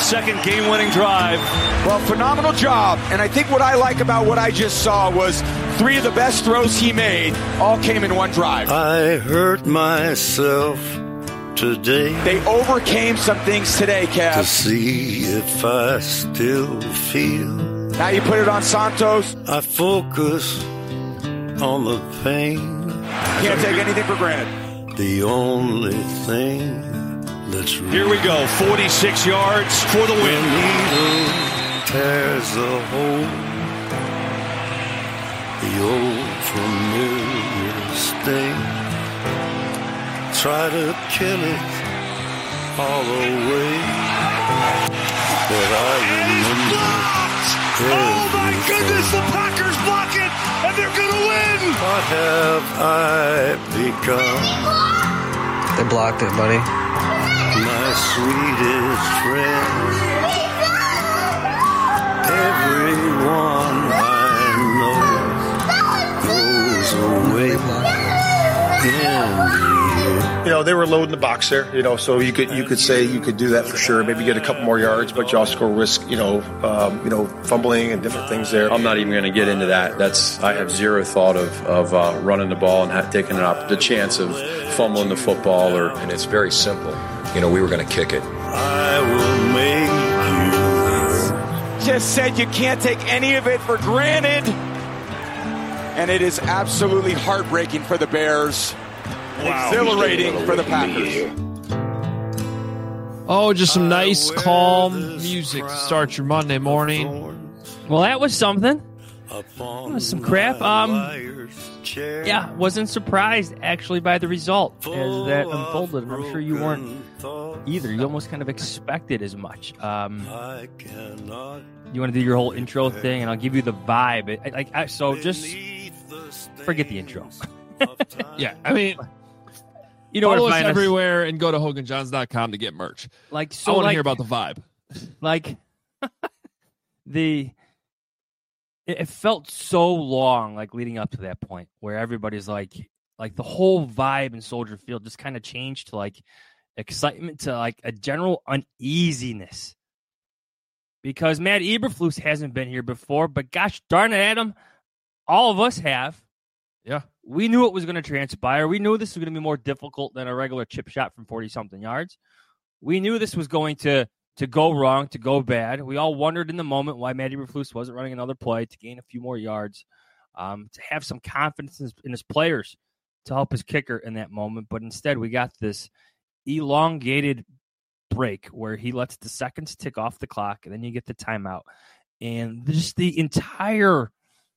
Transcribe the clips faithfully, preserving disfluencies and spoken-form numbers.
second game-winning drive. Well, phenomenal job. And I think what I like about what I just saw was three of the best throws he made all came in one drive. I hurt myself today. They overcame some things today, Kev. To see if I still feel. Now you put it on Santos. I focus on the pain. Can't take anything for granted. The only thing that's real. Here we go, forty-six yards for the win. Needle tears the hole. The old familiar sting. Try to kill it all away. But I remember. Oh my goodness, the Packers block it, and they're going to win! What have I become? They blocked it, buddy. My sweetest friend. Everyone I know goes away in the You know, they were loading the box there, you know, so you could you could say you could do that for sure, maybe get a couple more yards, but you also go risk, you know, um, you know, fumbling and different things there. I'm not even going to get into that. That's I have zero thought of of uh, running the ball and have, taking an op- the chance of fumbling the football, or and it's very simple. You know, we were going to kick it. I will make you. Just said you can't take any of it for granted, and it is absolutely heartbreaking for the Bears. Wow. Exhilarating for the Packers. Oh, just some nice, calm music to start your Monday morning. Well, that was something. That was some crap. Um, yeah, wasn't surprised, actually, by the result as that unfolded. And I'm sure you weren't either. You almost kind of expected as much. Um, you want to do your whole intro thing, and I'll give you the vibe. Like, I, so just forget the intro. Yeah, I mean... You know, follow us everywhere and go to Hogan Johns dot com to get merch. Like, so I want to like, hear about the vibe. Like, the it, it felt so long, like leading up to that point, where everybody's like, like the whole vibe in Soldier Field just kind of changed to like excitement to like a general uneasiness, because Matt Eberflus hasn't been here before, but gosh darn it, Adam, all of us have. Yeah. We knew it was going to transpire. We knew this was going to be more difficult than a regular chip shot from forty-something yards. We knew this was going to, to go wrong, to go bad. We all wondered in the moment why Matty Eberflus wasn't running another play to gain a few more yards, um, to have some confidence in his, in his players to help his kicker in that moment. But instead, we got this elongated break where he lets the seconds tick off the clock, and then you get the timeout. And just the entire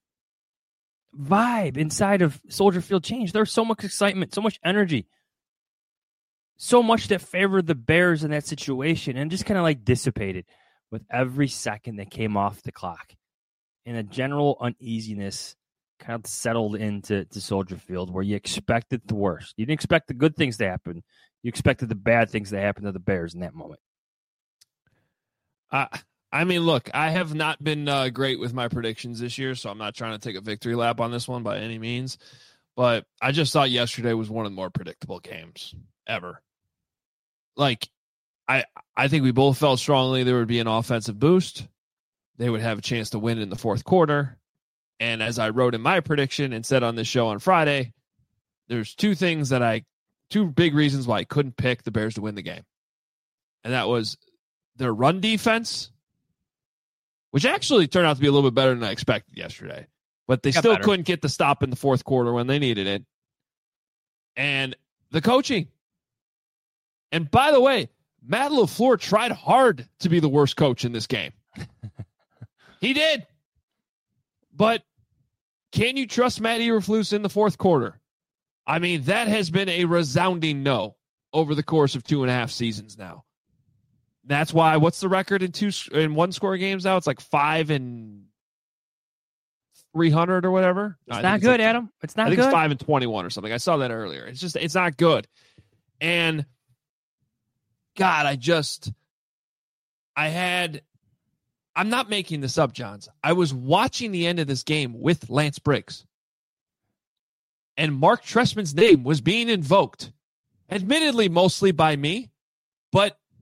vibe inside of Soldier Field changed. There was so much excitement, so much energy, so much that favored the Bears in that situation, and just kind of like dissipated with every second that came off the clock. And a general uneasiness kind of settled into to Soldier Field, where you expected the worst. You didn't expect the good things to happen. You expected the bad things to happen to the Bears in that moment. Uh, I mean, look, I have not been uh, great with my predictions this year, so I'm not trying to take a victory lap on this one by any means. But I just thought yesterday was one of the more predictable games ever. Like, I I think we both felt strongly there would be an offensive boost. They would have a chance to win in the fourth quarter. And as I wrote in my prediction and said on this show on Friday, there's two things that I, two big reasons why I couldn't pick the Bears to win the game. And that was their run defense, which actually turned out to be a little bit better than I expected yesterday. But they Got still better. couldn't get the stop in the fourth quarter when they needed it. And the coaching. And by the way, Matt LaFleur tried hard to be the worst coach in this game. He did. But can you trust Matt Eberflus in the fourth quarter? I mean, that has been a resounding no over the course of two and a half seasons now. That's why, what's the record in two in one score games now? It's like five and three hundred or whatever. It's no, not it's good, like, Adam. It's not I think good. it's five and twenty-one or something. I saw that earlier. It's just, it's not good. And God, I just, I had, I'm not making this up, Johns. I was watching the end of this game with Lance Briggs. And Mark Trestman's name was being invoked. Admittedly, mostly by me. But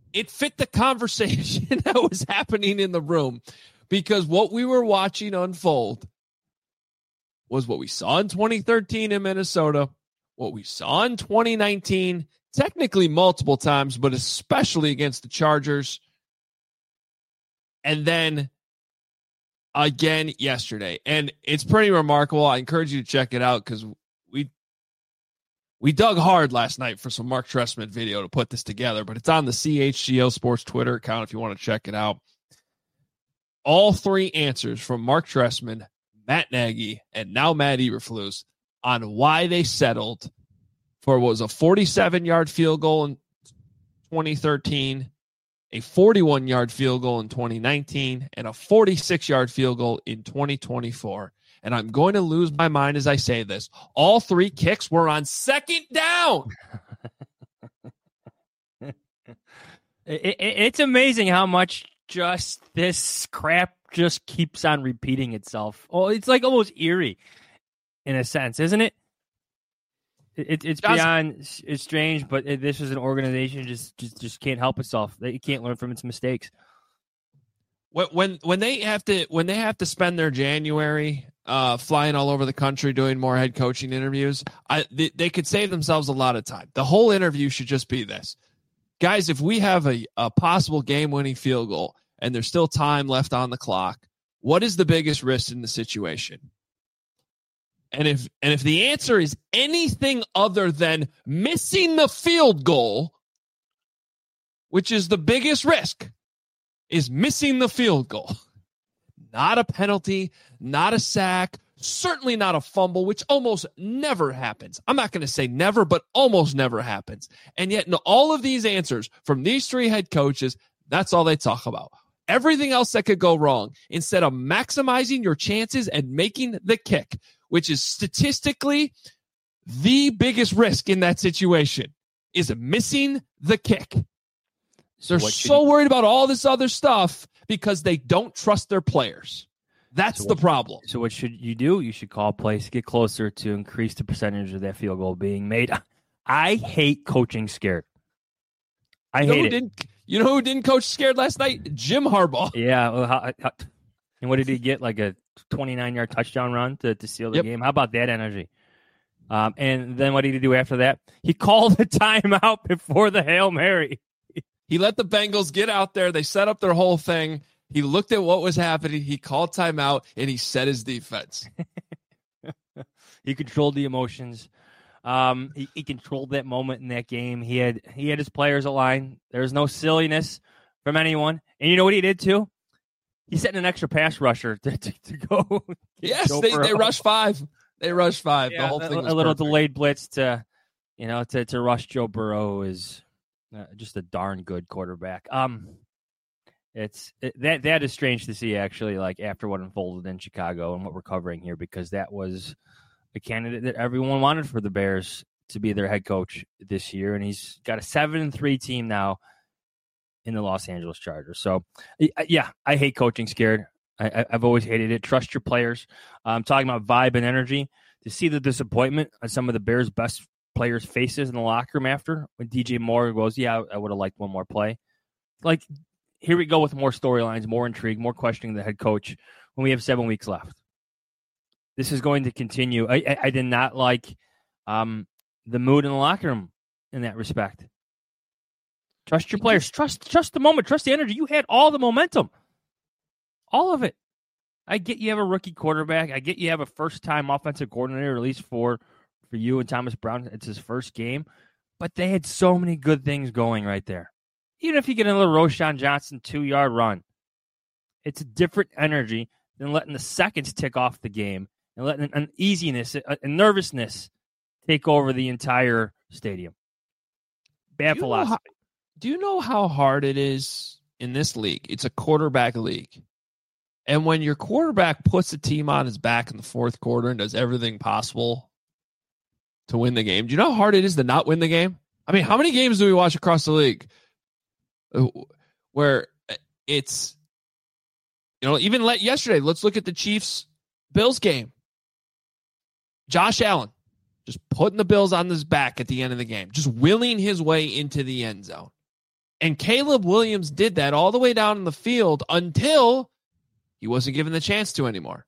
it fit the conversation that was happening in the room, because what we were watching unfold was what we saw in twenty thirteen in Minnesota, what we saw in twenty nineteen, technically multiple times, but especially against the Chargers. And then again yesterday. And it's pretty remarkable. I encourage you to check it out, because we we dug hard last night for some Mark Trestman video to put this together, but it's on the C H G O Sports Twitter account if you want to check it out. All three answers from Mark Trestman, Matt Nagy, and now Matt Eberflus on why they settled for what was a forty-seven-yard field goal in twenty thirteen, a forty-one-yard field goal in twenty nineteen, and a forty-six-yard field goal in twenty twenty-four. And I'm going to lose my mind as I say this. All three kicks were on second down. it, it, it's amazing how much just this crap just keeps on repeating itself. Oh, it's like almost eerie in a sense, isn't it? It, it's beyond it's strange, but it, this is an organization just, just just can't help itself. It can't learn from its mistakes. When when when they have to when they have to spend their January uh, flying all over the country doing more head coaching interviews, I they, they could save themselves a lot of time. The whole interview should just be this: guys, if we have a, a possible game-winning field goal and there's still time left on the clock, what is the biggest risk in the situation? And if and if the answer is anything other than missing the field goal, which is the biggest risk, is missing the field goal. Not a penalty, not a sack, certainly not a fumble, which almost never happens. I'm not going to say never, but almost never happens. And yet in all of these answers from these three head coaches, that's all they talk about. Everything else that could go wrong, instead of maximizing your chances and making the kick, which is statistically the biggest risk in that situation, is missing the kick. They're so, so worried about all this other stuff because they don't trust their players. That's so the what, problem. So what should you do? You should call plays to get closer to increase the percentage of that field goal being made. I hate coaching scared. I you know hate who it. Didn't, you know who didn't coach scared last night? Jim Harbaugh. Yeah. Well, how, how, and what did he get? Like a twenty-nine-yard touchdown run to, to seal the yep. game? How about that energy? Um, and then what did he do after that? He called the timeout before the Hail Mary. He let the Bengals get out there. They set up their whole thing. He looked at what was happening. He called timeout, and he set his defense. He controlled the emotions. Um, he, he controlled that moment in that game. He had he had his players aligned. There was no silliness from anyone. And you know what he did, too? He sent an extra pass rusher to, to, to go. Yes, they, they rushed five. They rushed five. Yeah, the whole thing a, was a little perfect. delayed blitz to, you know, to, to rush Joe Burrow is uh, just a darn good quarterback. Um, it's it, that that is strange to see, actually, like after what unfolded in Chicago and what we're covering here, because that was a candidate that everyone wanted for the Bears to be their head coach this year, and he's got a seven and three team now in the Los Angeles Chargers. So, yeah, I hate coaching scared. I, I've always hated it. Trust your players. I'm talking about vibe and energy. To see the disappointment on some of the Bears' best players' faces in the locker room after when D J Moore goes, yeah, I would have liked one more play. Like, here we go with more storylines, more intrigue, more questioning the head coach when we have seven weeks left. This is going to continue. I, I, I did not like um, the mood in the locker room in that respect. Trust your players. Trust, trust the moment. Trust the energy. You had all the momentum. All of it. I get you have a rookie quarterback. I get you have a first-time offensive coordinator, at least for, for you and Thomas Brown. It's his first game. But they had so many good things going right there. Even if you get another Roshan Johnson two-yard run, it's a different energy than letting the seconds tick off the game and letting an uneasiness, a, a nervousness take over the entire stadium. Bad do you philosophy. How, do you know how hard it is in this league? It's a quarterback league. And when your quarterback puts a team on his back in the fourth quarter and does everything possible to win the game, do you know how hard it is to not win the game? I mean, how many games do we watch across the league where it's, you know, even let yesterday, let's look at the Chiefs-Bills game. Josh Allen just putting the Bills on his back at the end of the game, just willing his way into the end zone. And Caleb Williams did that all the way down in the field until he wasn't given the chance to anymore.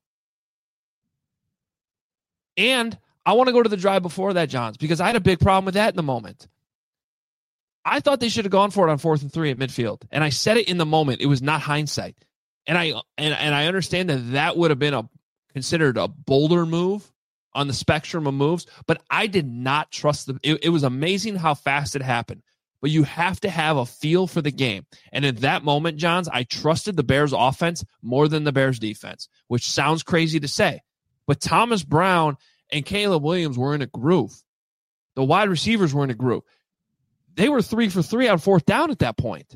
And I want to go to the drive before that, Johns, because I had a big problem with that in the moment. I thought they should have gone for it on fourth and three at midfield. And I said it in the moment. It was not hindsight. And I and, and I understand that that would have been a considered a bolder move on the spectrum of moves, but I did not trust the it, it was amazing how fast it happened. But you have to have a feel for the game. And at that moment, Johns, I trusted the Bears offense more than the Bears defense, which sounds crazy to say. But Thomas Brown and Caleb Williams were in a groove. The wide receivers were in a groove. They were three for three on fourth down at that point.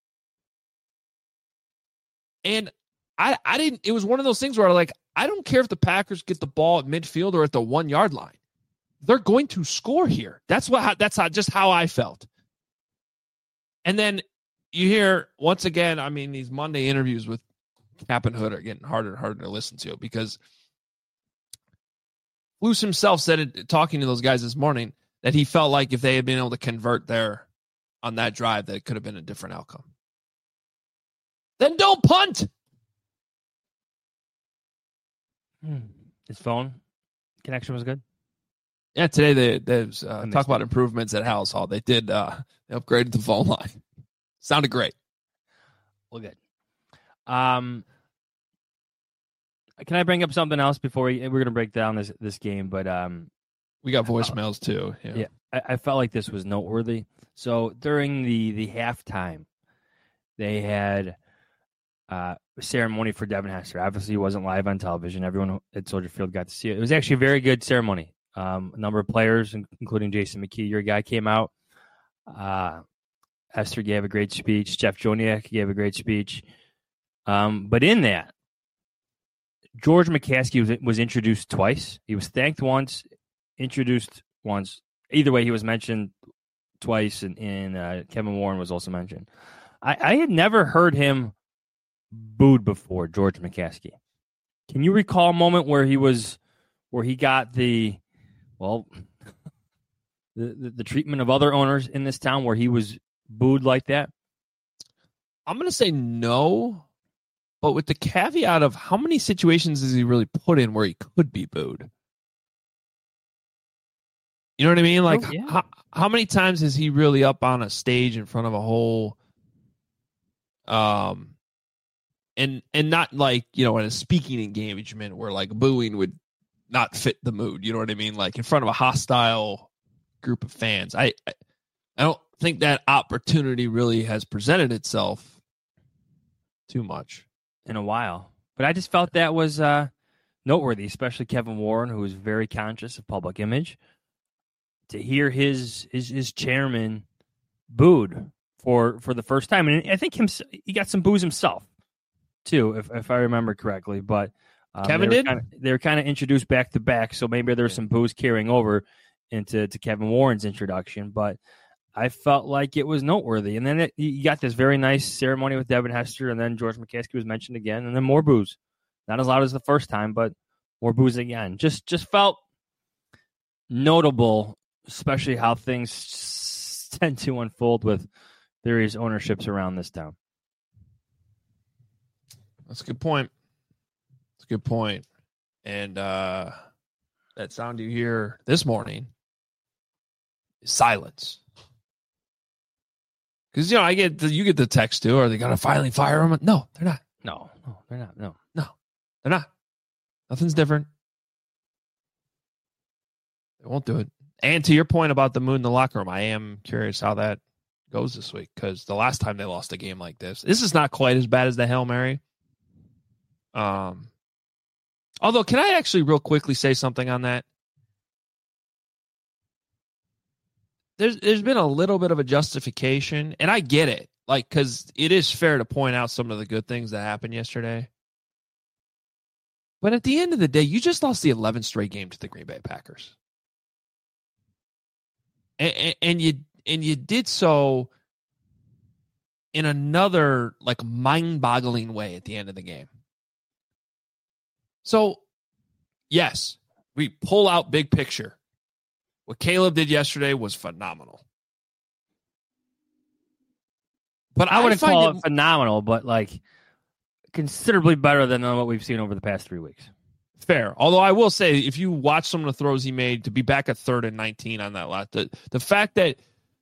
And I, I didn't, it was one of those things where I like, I don't care if the Packers get the ball at midfield or at the one yard line. They're going to score here. That's what, that's how, just how I felt. And then you hear, once again, I mean, these Monday interviews with Cap and Hood are getting harder and harder to listen to because Luce himself said it, talking to those guys this morning, that he felt like if they had been able to convert there on that drive, that it could have been a different outcome. Then don't punt. Hmm. His phone connection was good. Yeah, today they, they was, uh, talk about improvements at House Hall. They did. Uh, they upgraded the phone line. Sounded great. Well, good. Um, can I bring up something else before we, we're going to break down this this game? But um, we got voicemails too. Yeah, yeah I, I felt like this was noteworthy. So during the the halftime, they had uh, a ceremony for Devin Hester. Obviously, it wasn't live on television. Everyone at Soldier Field got to see it. It was actually a very good ceremony. Um, a number of players, including Jason McKee, your guy, came out. Uh, Hester gave a great speech. Jeff Joniak gave a great speech. Um, but in that, George McCaskey was, was introduced twice. He was thanked once, introduced once. Either way, he was mentioned twice, and, and uh, Kevin Warren was also mentioned. I, I had never heard him booed before, George McCaskey. Can you recall a moment where he was, where he got the, well, the, the, the treatment of other owners in this town where he was booed like that? I'm going to say no, but with the caveat of how many situations is he really put in where he could be booed? You know what I mean? Like, oh, yeah. how, how many times is he really up on a stage in front of a whole, um, and and not like, you know, in a speaking engagement where like booing would not fit the mood. You know what I mean? Like in front of a hostile group of fans. I, I, I don't think that opportunity really has presented itself too much in a while. But I just felt that was uh, noteworthy, especially Kevin Warren, who is very conscious of public image, to hear his his, his chairman booed for, for the first time. And I think him, he got some boos himself, too, if if I remember correctly. But um, Kevin they did? Kinda, they were kind of introduced back to back, so maybe there's some boos carrying over into to Kevin Warren's introduction. But I felt like it was noteworthy. And then it, you got this very nice ceremony with Devin Hester, and then George McCaskey was mentioned again, and then more boos. Not as loud as the first time, but more boos again. Just just felt notable, especially how things tend to unfold with various ownerships around this town. That's a good point. That's a good point. And uh, that sound you hear this morning is silence. Because, you know, I get the, you get the text too. Are they going to finally fire him? No, they're not. No, no, they're not. No, no, they're not. Nothing's different. They won't do it. And to your point about the mood in the locker room, I am curious how that goes this week, because the last time they lost a game like this, this is not quite as bad as the Hail Mary. Um, although, can I actually real quickly say something on that? There's there's been a little bit of a justification, and I get it, like, because it is fair to point out some of the good things that happened yesterday. But at the end of the day, you just lost the eleventh straight game to the Green Bay Packers, and, and, and you and you did so in another like mind-boggling way at the end of the game. So, yes, we pull out big picture. What Caleb did yesterday was phenomenal. But I wouldn't call it, it phenomenal, but like considerably better than what we've seen over the past three weeks. Fair. Although I will say, if you watch some of the throws he made to be back at third and nineteen on that lot, the, the fact that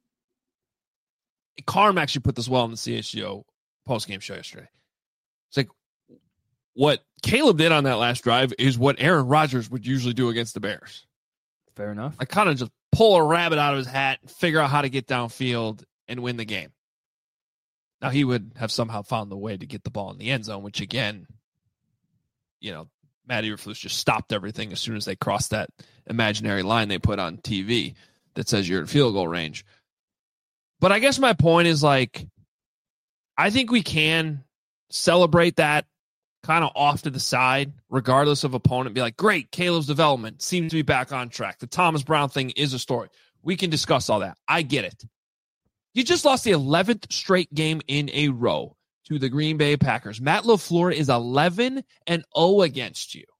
Carm actually put this well in the C H G O postgame show yesterday. It's like what Caleb did on that last drive is what Aaron Rodgers would usually do against the Bears. Fair enough. Like kind of just pull a rabbit out of his hat and figure out how to get downfield and win the game. Now, he would have somehow found the way to get the ball in the end zone, which, again, you know, Matt Eberflus just stopped everything as soon as they crossed that imaginary line they put on T V that says you're in field goal range. But I guess my point is, like, I think we can celebrate that kind of off to the side, regardless of opponent. Be like, great, Caleb's development seems to be back on track. The Thomas Brown thing is a story. We can discuss all that. I get it. You just lost the eleventh straight game in a row to the Green Bay Packers. Matt LaFleur is eleven and oh against you.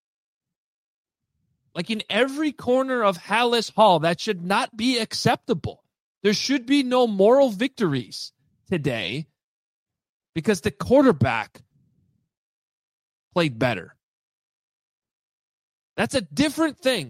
Like in every corner of Hallis Hall, that should not be acceptable. There should be no moral victories today because the quarterback played better. That's a different thing.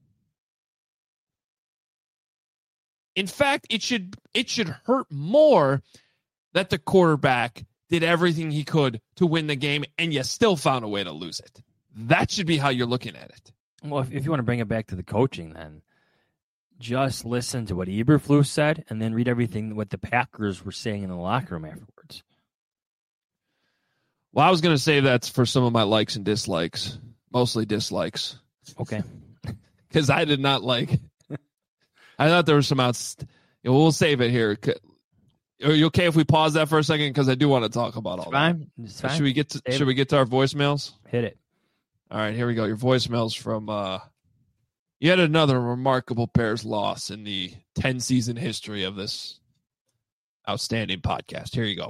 In fact, it should it should hurt more that the quarterback did everything he could to win the game and you still found a way to lose it. That should be how you're looking at it. Well, if, if you want to bring it back to the coaching, then just listen to what Eberflus said and then read everything what the Packers were saying in the locker room afterwards. Well, I was going to say that's for some of my likes and dislikes, mostly dislikes. Okay. Because I did not like... I thought there was some outs. You know, we'll save it here. Are you okay if we pause that for a second? Because I do want to talk about all it's fine. that. It's fine. Should we get to Save Should it. we get to our voicemails? Hit it. All right, here we go. Your voicemails from uh, yet another remarkable Bears loss in the ten season history of this outstanding podcast. Here you go.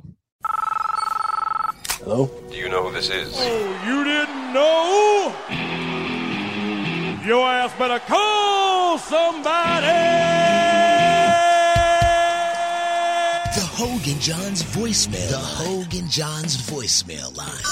Hello? Do you know who this is? Oh, you didn't know? Your ass better call somebody! The Hogan Johns voicemail. The Hogan Johns voicemail line.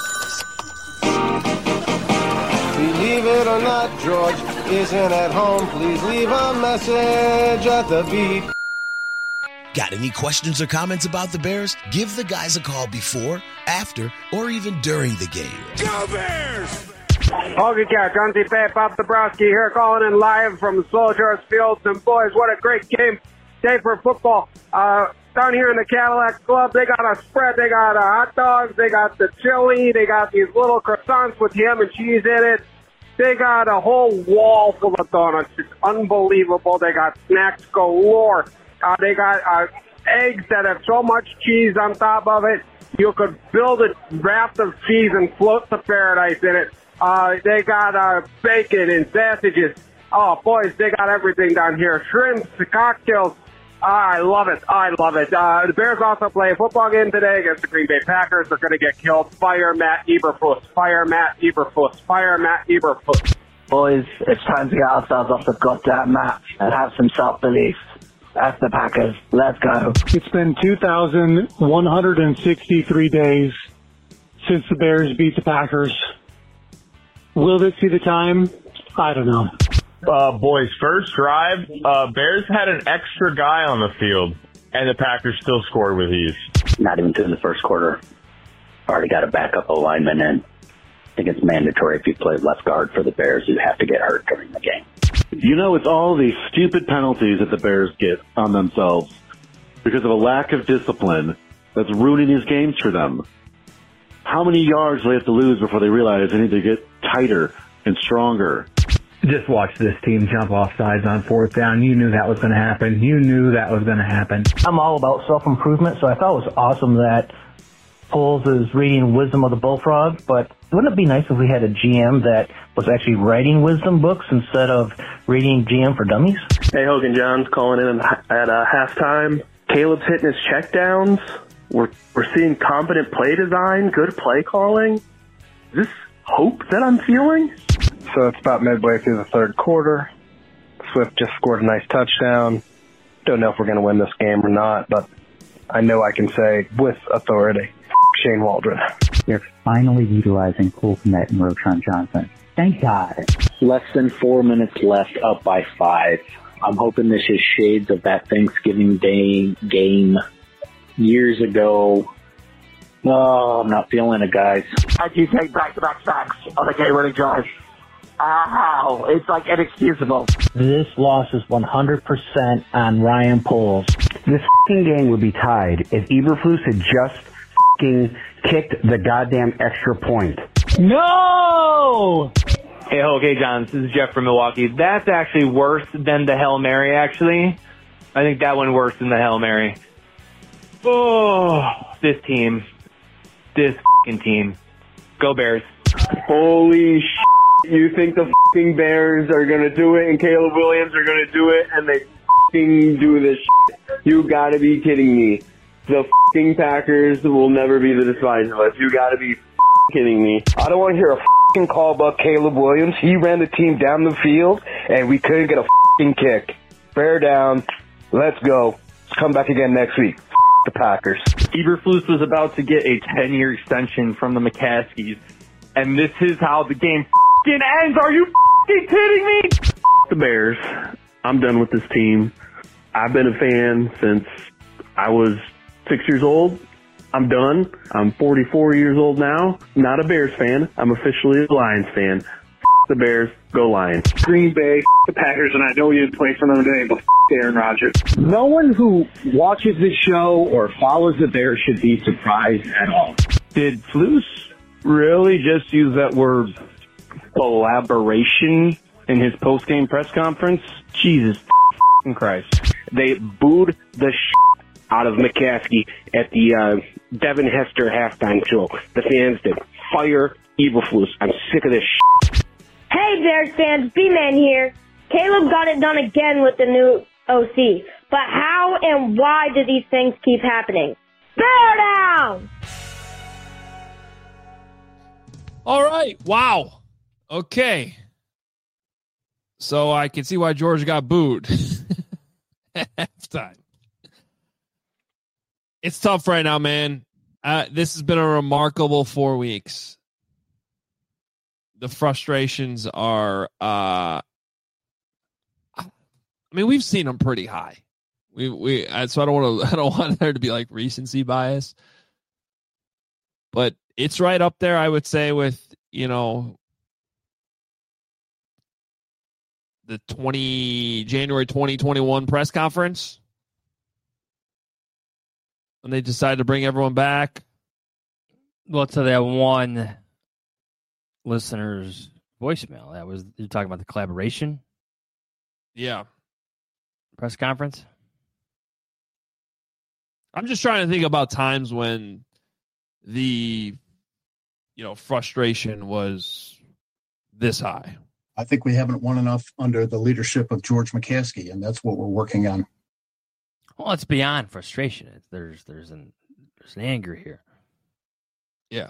Believe it or not, George isn't at home. Please leave a message at the beep. Got any questions or comments about the Bears? Give the guys a call before, after, or even during the game. Go Bears! Hogan Cat, John C. Pat, Bob Dabrowski here, calling in live from Soldiers Field. And boys, what a great game day for football. Uh, down here in the Cadillac Club, they got a spread. They got uh, hot dogs. They got the chili. They got these little croissants with ham and cheese in it. They got a whole wall full of donuts. It's unbelievable. They got snacks galore. Uh, they got uh, eggs that have so much cheese on top of it, you could build a raft of cheese and float to paradise in it. Uh, they got uh, bacon and sausages. Oh, boys, they got everything down here. Shrimps, cocktails. Oh, I love it. I love it. Uh, the Bears also play a football game today against the Green Bay Packers. They're going to get killed. Fire Matt Eberflus. Fire Matt Eberflus. Fire Matt Eberflus. Boys, it's time to get ourselves off the goddamn mat and have some self-belief. That's the Packers. Let's go. It's been two thousand one hundred sixty-three days since the Bears beat the Packers. Will this be the time? I don't know. Uh, boys, first drive, uh, Bears had an extra guy on the field, and the Packers still scored with ease. Not even through the first quarter. Already got a backup O-lineman in. I think it's mandatory if you play left guard for the Bears, you have to get hurt during the game. You know, it's all these stupid penalties that the Bears get on themselves because of a lack of discipline that's ruining these games for them. How many yards do they have to lose before they realize they need to get tighter and stronger? Just watch this team jump off sides on fourth down. You knew that was going to happen. You knew that was going to happen. I'm all about self-improvement, so I thought it was awesome that Poles is reading Wisdom of the Bullfrog, but wouldn't it be nice if we had a G M that was actually writing wisdom books instead of reading G M for Dummies? Hey, Hogan Johns calling in at uh, halftime. Caleb's hitting his checkdowns. We're, we're seeing competent play design, good play calling. Is this hope that I'm feeling? So it's about midway through the third quarter. Swift just scored a nice touchdown. Don't know if we're going to win this game or not, but I know I can say with authority, Shane Waldron. They're finally utilizing Cole Kmet and Roschon Johnson. Thank God. Less than four minutes left, up by five. I'm hoping this is shades of that Thanksgiving Day game years ago. Oh, I'm not feeling it, guys. I do take back-to-back sacks on a game-winning drive. Ow, it's like inexcusable. This loss is one hundred percent on Ryan Poles. This f***ing game would be tied if Eberflus had just f***ing kicked the goddamn extra point. No! Hey, okay, John, this is Jeff from Milwaukee. That's actually worse than the Hail Mary, actually. I think that one worse than the Hail Mary. Oh, this team. This f***ing team. Go Bears. Holy sh**. You think the f***ing Bears are going to do it and Caleb Williams are going to do it and they f***ing do this shit? You got to be kidding me. The f***ing Packers will never be the despise of us. You got to be f***ing kidding me. I don't want to hear a f***ing call about Caleb Williams. He ran the team down the field and we couldn't get a f***ing kick. Bear down. Let's go. Let's come back again next week. F*** the Packers. Eberflus was about to get a ten-year extension from the McCaskies, and this is how the game f***ing ends. Are you f***ing kidding me? F*** the Bears. I'm done with this team. I've been a fan since I was six years old. I'm done. I'm forty-four years old now. Not a Bears fan. I'm officially a Lions fan. F*** the Bears. Go Lions. Green Bay, f*** the Packers, and I know you didn't play for them today, but f*** Aaron Rodgers. No one who watches this show or follows the Bears should be surprised at all. Did Flus really just use that word collaboration in his post-game press conference? Jesus f***ing Christ. They booed the shit out of McCaskey at the uh, Devin Hester halftime show. The fans did. Fire Eberflus. I'm sick of this shit. Hey Bears fans, B-Man here. Caleb got it done again with the new O C. But how and why do these things keep happening? Bear down! All right. Wow. Okay. So I can see why George got booed at halftime. It's tough right now, man. Uh, this has been a remarkable four weeks. The frustrations are, uh, I mean, we've seen them pretty high. We, we, so I don't want to, I don't want there to be like recency bias, but it's right up there, I would say, with, you know, the twenty January twenty twenty-one press conference when they decided to bring everyone back. Well, to that one listener's voicemail, that was, you're talking about the collaboration? Yeah. Press conference? I'm just trying to think about times when the, you know, frustration was this high. I think we haven't won enough under the leadership of George McCaskey, and that's what we're working on. Well, it's beyond frustration. It's, there's there's an there's an anger here. Yeah.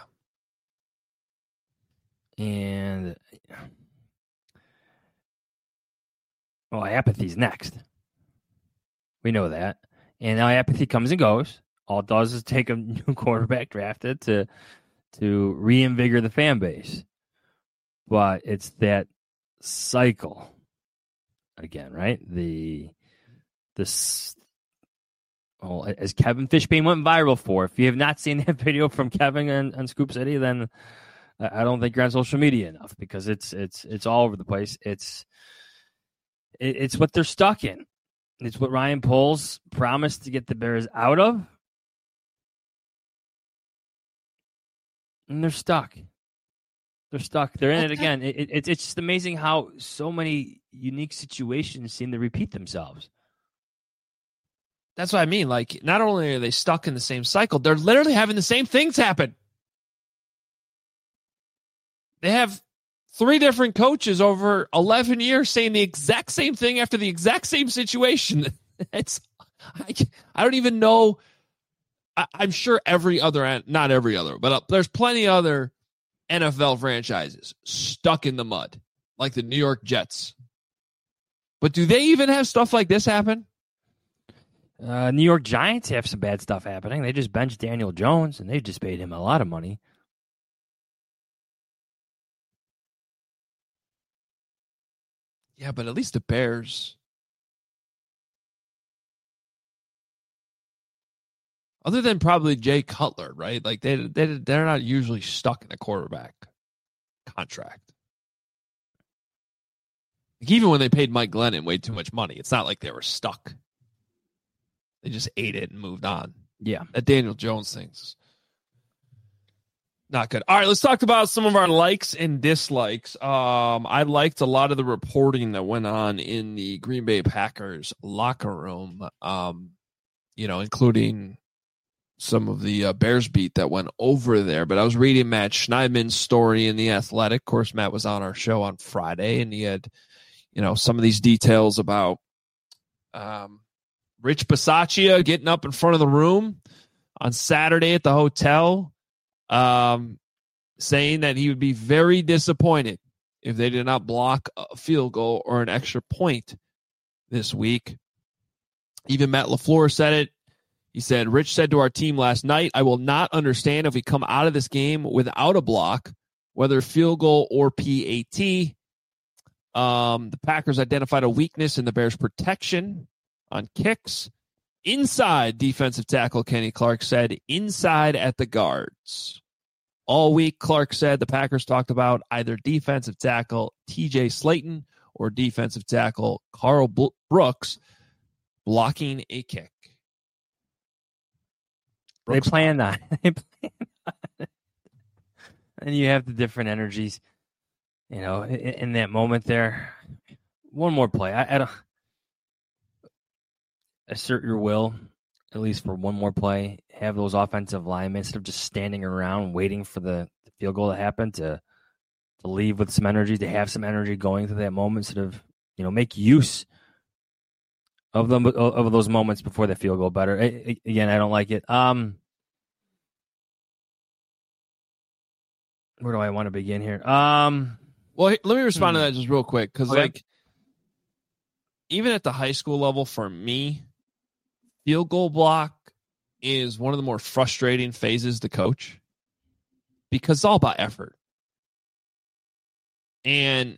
And well, apathy's next. We know that. And now apathy comes and goes. All it does is take a new quarterback drafted to to reinvigorate the fan base. But it's that cycle again, right? The this well, as Kevin Fishbane went viral for. If you have not seen that video from Kevin on, on Scoop City, then I don't think you're on social media enough, because it's it's it's all over the place. It's it, it's what they're stuck in. It's what Ryan Poles promised to get the Bears out of, and they're stuck. They're stuck. They're in it again. It, it, it's it's just amazing how so many unique situations seem to repeat themselves. That's what I mean. Like, not only are they stuck in the same cycle, they're literally having the same things happen. They have three different coaches over eleven years saying the exact same thing after the exact same situation. It's, I, I don't even know. I, I'm sure every other, not every other, but uh, there's plenty of other N F L franchises stuck in the mud, like the New York Jets. But do they even have stuff like this happen? Uh, New York Giants have some bad stuff happening. They just benched Daniel Jones, and they just paid him a lot of money. Yeah, but at least the Bears, other than probably Jay Cutler, right? Like they they they're not usually stuck in a quarterback contract. Like even when they paid Mike Glennon way too much money, it's not like they were stuck. They just ate it and moved on. Yeah, that Daniel Jones thing's not good. All right, let's talk about some of our likes and dislikes. Um, I liked a lot of the reporting that went on in the Green Bay Packers locker room, um, you know, including some of the uh, Bears beat that went over there. But I was reading Matt Schneidman's story in The Athletic. Of course, Matt was on our show on Friday, and he had, you know, some of these details about um, Rich Bisaccia getting up in front of the room on Saturday at the hotel, um, saying that he would be very disappointed if they did not block a field goal or an extra point this week. Even Matt LaFleur said it. He said, Rich said to our team last night, I will not understand if we come out of this game without a block, whether field goal or P A T. Um, the Packers identified a weakness in the Bears' protection on kicks. Inside, defensive tackle Kenny Clark said, inside at the guards. All week, Clark said the Packers talked about either defensive tackle T J Slayton or defensive tackle Carl Brooks blocking a kick. Brooks they plan that. They plan that. And you have the different energies, you know, in, in that moment there. One more play. I, I don't assert your will, at least for one more play. Have those offensive linemen, instead of just standing around waiting for the, the field goal to happen, to to leave with some energy, to have some energy going through that moment, instead of, you know, make use of them of those moments before the field goal better. I, again, I don't like it. Um, where do I want to begin here? Um, well, let me respond hmm. to that just real quick, because okay. like even at the high school level, for me, field goal block is one of the more frustrating phases to coach, because it's all about effort. And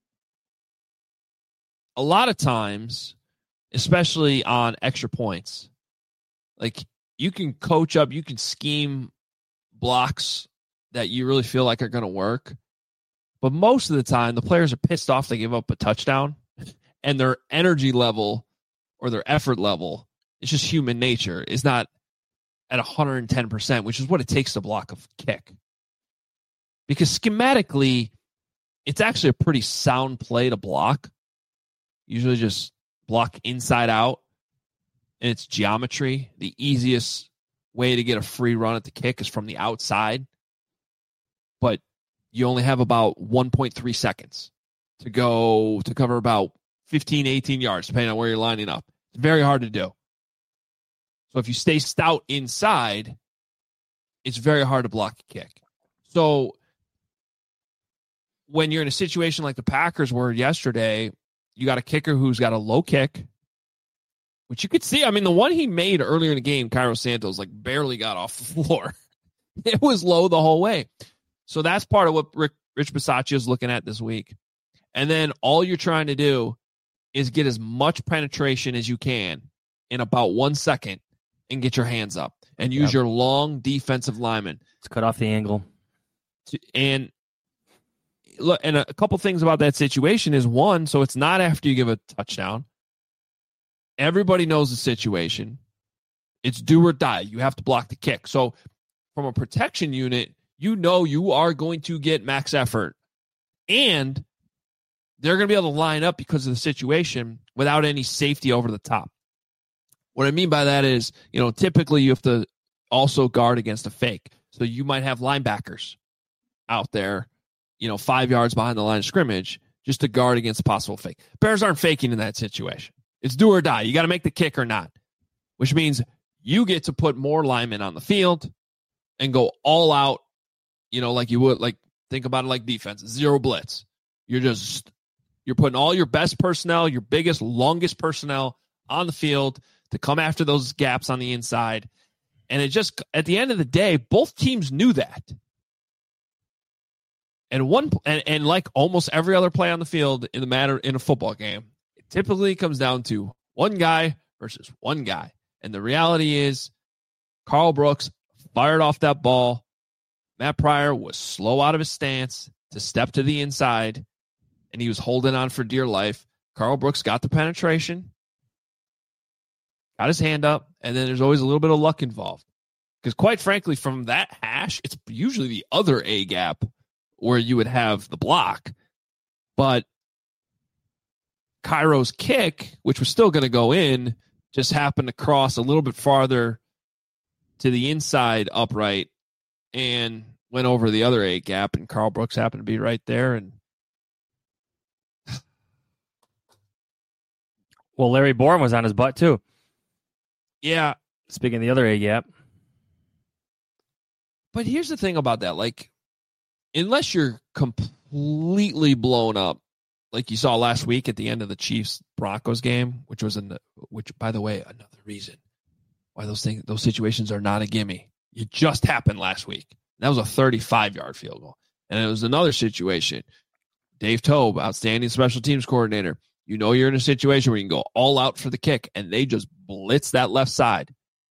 a lot of times, especially on extra points, like you can coach up, you can scheme blocks that you really feel like are going to work. But most of the time, the players are pissed off they give up a touchdown, and their energy level or their effort level, it's just human nature, is not at one hundred ten percent, which is what it takes to block a kick. Because schematically, it's actually a pretty sound play to block. Usually just block inside out, and it's geometry. The easiest way to get a free run at the kick is from the outside, but you only have about one point three seconds to go to cover about fifteen, eighteen yards, depending on where you're lining up. It's very hard to do. So if you stay stout inside, it's very hard to block a kick. So when you're in a situation like the Packers were yesterday, you got a kicker who's got a low kick, which you could see. I mean, the one he made earlier in the game, Cairo Santos, like barely got off the floor. It was low the whole way. So that's part of what Rick, Rich Bisaccia is looking at this week. And then all you're trying to do is get as much penetration as you can in about one second and get your hands up and use yep. your long defensive lineman. Let's cut off the angle. And look, and a couple things about that situation is, one, so it's not after you give a touchdown. Everybody knows the situation. It's do or die. You have to block the kick. So from a protection unit, you know you are going to get max effort. And they're going to be able to line up because of the situation without any safety over the top. What I mean by that is, you know, typically you have to also guard against a fake. So you might have linebackers out there, you know, five yards behind the line of scrimmage just to guard against a possible fake. Bears aren't faking in that situation. It's do or die. You got to make the kick or not, which means you get to put more linemen on the field and go all out, you know, like you would, like, think about it like defense, zero blitz. You're just, you're putting all your best personnel, your biggest, longest personnel on the field to come after those gaps on the inside. And it just, at the end of the day, both teams knew that. And one, and, and like almost every other play on the field in the matter in a football game, it typically comes down to one guy versus one guy. And the reality is, Karl Brooks fired off that ball. Matt Pryor was slow out of his stance to step to the inside, and he was holding on for dear life. Karl Brooks got the penetration, got his hand up, and then there's always a little bit of luck involved. Because quite frankly, from that hash, it's usually the other A gap where you would have the block. But Cairo's kick, which was still going to go in, just happened to cross a little bit farther to the inside upright and went over the other A gap, and Karl Brooks happened to be right there. And well, Larry Bourne was on his butt too. Yeah. Speaking of the other A gap. But here's the thing about that. Like, unless you're completely blown up, like you saw last week at the end of the Chiefs-Broncos game, which was in the, which, by the way, another reason why those things, those situations are not a gimme. It just happened last week. That was a thirty-five-yard field goal. And it was another situation. Dave Tobe, outstanding special teams coordinator. You know you're in a situation where you can go all out for the kick, and they just blitz that left side.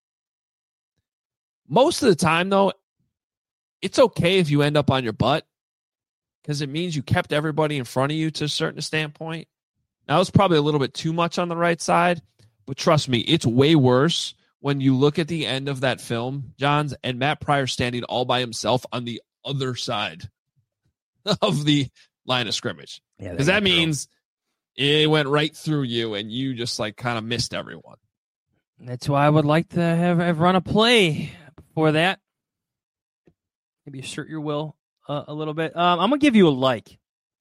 Most of the time, though, it's okay if you end up on your butt because it means you kept everybody in front of you to a certain standpoint. Now, it's probably a little bit too much on the right side, but trust me, it's way worse when you look at the end of that film, Johns, and Matt Pryor standing all by himself on the other side of the line of scrimmage. Yeah, because that means it went right through you and you just like kind of missed everyone. That's why I would like to have, have run a play before that. Maybe assert your will uh, a little bit. Um, I'm going to give you a like.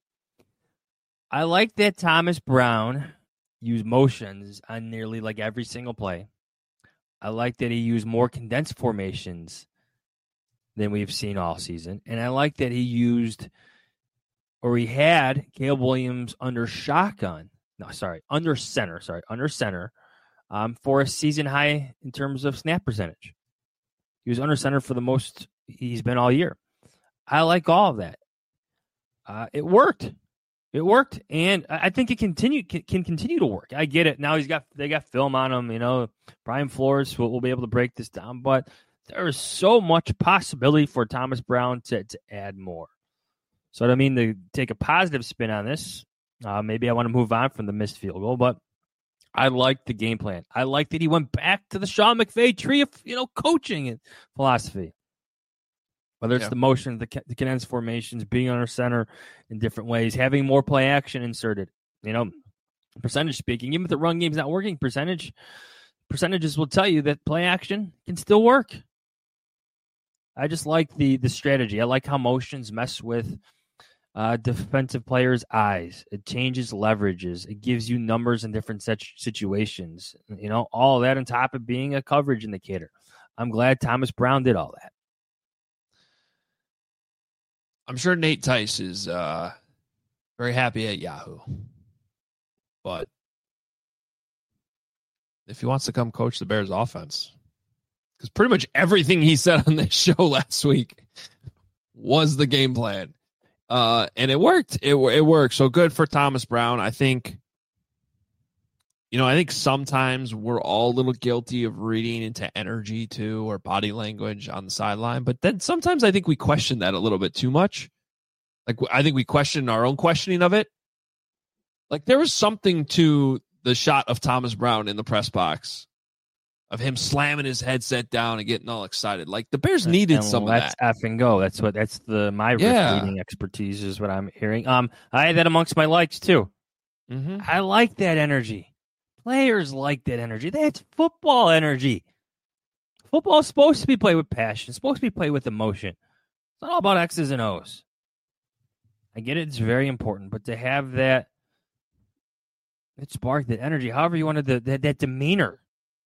I like that Thomas Brown used motions on nearly like every single play. I like that he used more condensed formations than we've seen all season. And I like that he used, or he had, Caleb Williams under shotgun. No, sorry, under center. Sorry, under center um, for a season high in terms of snap percentage. He was under center for the most he's been all year. I like all of that. Uh, it worked. It worked, and I think it continue can, can continue to work. I get it. Now he's got they got film on him. You know, Brian Flores will, will be able to break this down, but there is so much possibility for Thomas Brown to, to add more. So I mean to take a positive spin on this. Uh, maybe I want to move on from the missed field goal, but I like the game plan. I like that he went back to the Sean McVay tree of you know coaching and philosophy. Whether it's yeah. the motion, the, the condensed formations, being under center in different ways, having more play action inserted. You know, percentage speaking, even if the run game's not working, percentage percentages will tell you that play action can still work. I just like the the strategy. I like how motions mess with uh, defensive players' eyes. It changes leverages. It gives you numbers in different such situations. You know, all of that on top of being a coverage indicator. I'm glad Thomas Brown did all that. I'm sure Nate Tice is uh, very happy at Yahoo. But if he wants to come coach the Bears offense, because pretty much everything he said on this show last week was the game plan. Uh, and it worked. It, it worked. So good for Thomas Brown. I think, you know, I think sometimes we're all a little guilty of reading into energy too, or body language on the sideline. But then sometimes I think we question that a little bit too much. Like, I think we question our own questioning of it. Like, there was something to the shot of Thomas Brown in the press box of him slamming his headset down and getting all excited. Like, the Bears needed and some let's of that. F and go. That's what, that's the, my Yeah. reading expertise is what I'm hearing. Um, I had that amongst my likes too. Mm-hmm. I like that energy. Players like that energy. That's football energy. Football is supposed to be played with passion. It's supposed to be played with emotion. It's not all about X's and O's. I get it. It's very important. But to have that, that spark, that energy, however you wanted, the, that, that demeanor.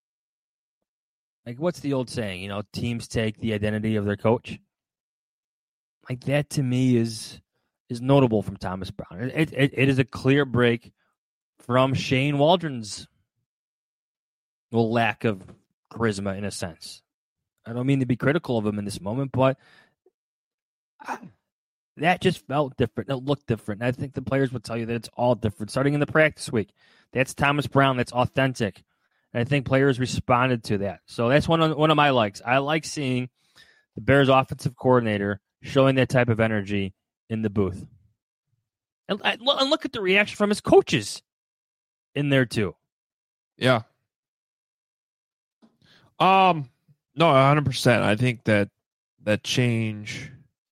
Like, what's the old saying? You know, teams take the identity of their coach. Like, that to me is is notable from Thomas Brown. It, it, it is a clear break from Shane Waldron's well, lack of charisma in a sense. I don't mean to be critical of him in this moment, but that just felt different. It looked different. I think the players would tell you that it's all different. Starting in the practice week, that's Thomas Brown. That's authentic. And I think players responded to that. So that's one of, one of my likes. I like seeing the Bears offensive coordinator showing that type of energy in the booth. And, and look at the reaction from his coaches in there too. Yeah. Um, no, one hundred percent. I think that that change.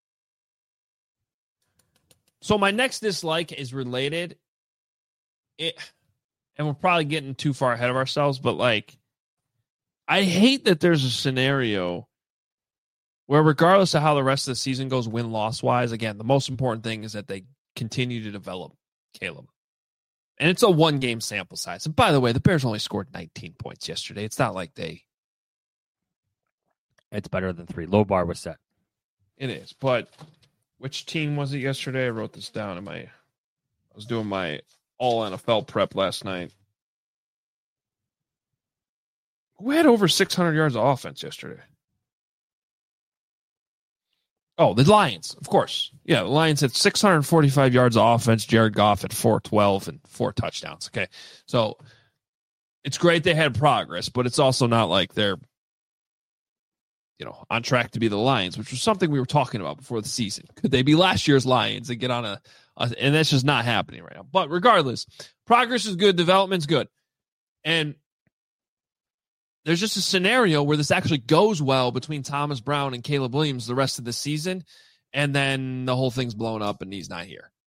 So my next dislike is related. It, and we're probably getting too far ahead of ourselves, but like, I hate that there's a scenario where regardless of how the rest of the season goes win-loss wise, again, the most important thing is that they continue to develop Caleb. And it's a one-game sample size. And by the way, the Bears only scored nineteen points yesterday. It's not like they... It's better than three. Low bar was set. It is. But which team was it yesterday? I wrote this down in my... I was doing my all N F L prep last night. Who had over six hundred yards of offense yesterday? Oh, the Lions, of course. Yeah, the Lions had six hundred forty-five yards of offense. Jared Goff had four twelve and four touchdowns. Okay, so it's great they had progress, but it's also not like they're, you know, on track to be the Lions, which was something we were talking about before the season. Could they be last year's Lions and get on a, a and that's just not happening right now. But regardless, progress is good, development's good. And there's just a scenario where this actually goes well between Thomas Brown and Caleb Williams the rest of the season, and then the whole thing's blown up and he's not here.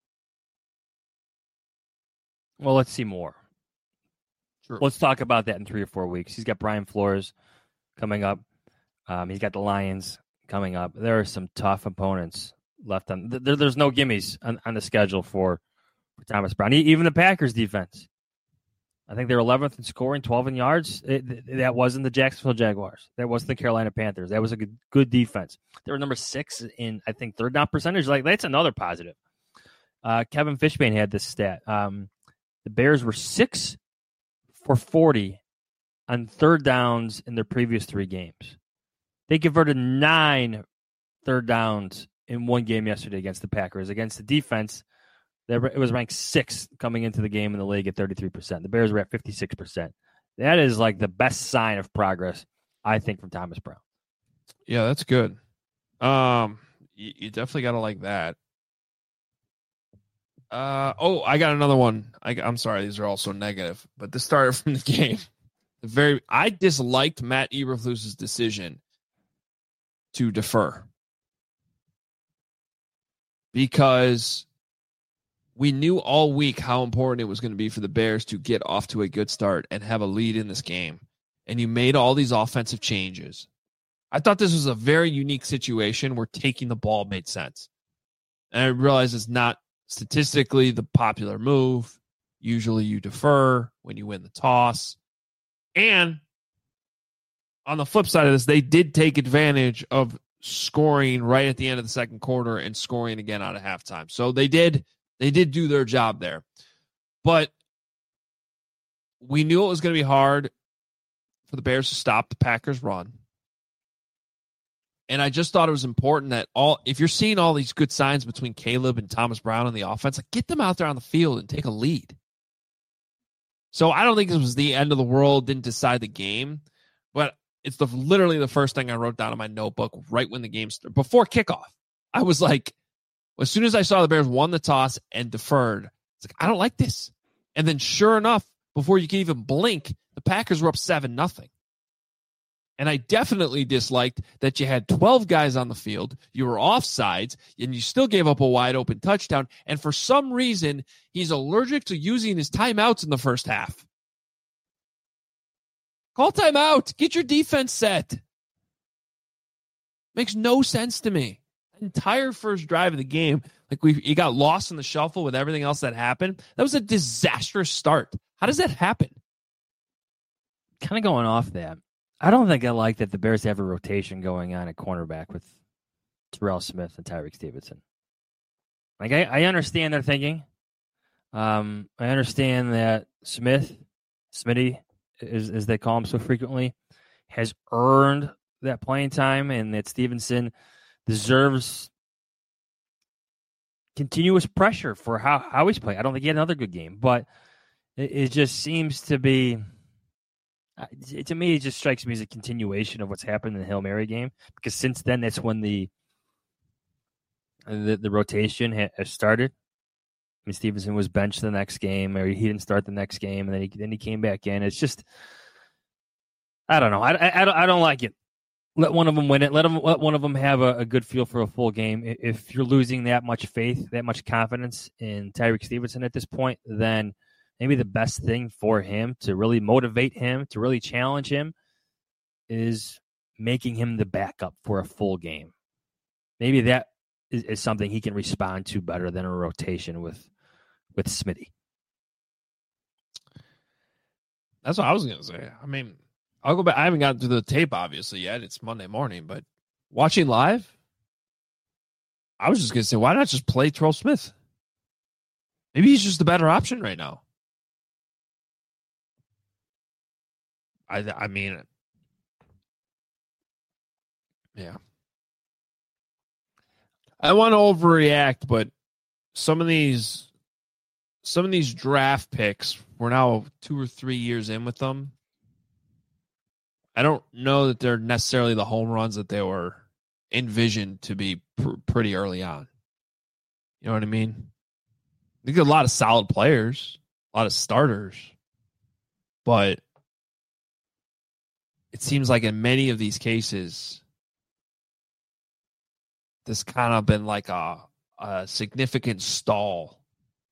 Well, let's see more. Sure. Let's talk about that in three or four weeks. He's got Brian Flores coming up. Um, he's got the Lions coming up. There are some tough opponents left on. There, there's no gimmies on, on the schedule for, for Thomas Brown. Even the Packers defense. I think they're eleventh in scoring, twelve in yards. It, that wasn't the Jacksonville Jaguars. That wasn't the Carolina Panthers. That was a good, good defense. They were number six in, I think, third down percentage. Like, that's another positive. Uh, Kevin Fishbane had this stat. Um, the Bears were six for forty on third downs in their previous three games. They converted nine third downs in one game yesterday against the Packers. Against the defense, it was ranked sixth coming into the game in the league at thirty-three percent. The Bears were at fifty-six percent. That is like the best sign of progress, I think, from Thomas Brown. Yeah, that's good. Um, you, you definitely got to like that. Uh, oh, I got another one. I, I'm sorry, these are all so negative, but this started from the game. The very, I disliked Matt Eberflus's decision to defer because we knew all week how important it was going to be for the Bears to get off to a good start and have a lead in this game. And you made all these offensive changes. I thought this was a very unique situation where taking the ball made sense. And I realize it's not statistically the popular move. Usually you defer when you win the toss. And on the flip side of this, they did take advantage of scoring right at the end of the second quarter and scoring again out of halftime. So they did they did do their job there. But we knew it was going to be hard for the Bears to stop the Packers' run. And I just thought it was important that all if you're seeing all these good signs between Caleb and Thomas Brown on the offense, like get them out there on the field and take a lead. So I don't think this was the end of the world, didn't decide the game, but it's the literally the first thing I wrote down in my notebook right when the game started. Before kickoff, I was like, as soon as I saw the Bears won the toss and deferred, it's like, I don't like this. And then sure enough, before you can even blink, the Packers were up seven nothing. And I definitely disliked that you had twelve guys on the field, you were offsides, and you still gave up a wide open touchdown. And for some reason, he's allergic to using his timeouts in the first half. Call timeout. Get your defense set. Makes no sense to me. Entire first drive of the game, like we you got lost in the shuffle with everything else that happened. That was a disastrous start. How does that happen? Kind of going off that. I don't think I like that the Bears have a rotation going on at cornerback with Terrell Smith and Tyreek Stevenson. Like I, I understand their thinking. Um, I understand that Smith, Smitty, as, as they call him so frequently, has earned that playing time, and that Stevenson deserves continuous pressure for how, how he's playing. I don't think he had another good game, but it, it just seems to be, to me, it just strikes me as a continuation of what's happened in the Hail Mary game, because since then, that's when the the, the rotation ha- has started. I mean, Stevenson was benched the next game, or he didn't start the next game, and then he, then he came back in. It's just, I don't know. I, I, I, don't, I don't like it. Let one of them win it. Let them. Let one of them have a, a good feel for a full game. If you're losing that much faith, that much confidence in Tyreek Stevenson at this point, then maybe the best thing for him to really motivate him, to really challenge him, is making him the backup for a full game. Maybe that is, is something he can respond to better than a rotation with with Smitty. That's what I was gonna say. I mean, I'll go back. I haven't gotten through the tape obviously yet. It's Monday morning, but watching live, I was just gonna say, why not just play Terrell Smith? Maybe he's just the better option right now. I I mean, yeah. I want to overreact, but some of these, some of these draft picks, we're now two or three years in with them. I don't know that they're necessarily the home runs that they were envisioned to be pr- pretty early on. You know what I mean? They get a lot of solid players, a lot of starters, but it seems like in many of these cases, this kind of been like a, a significant stall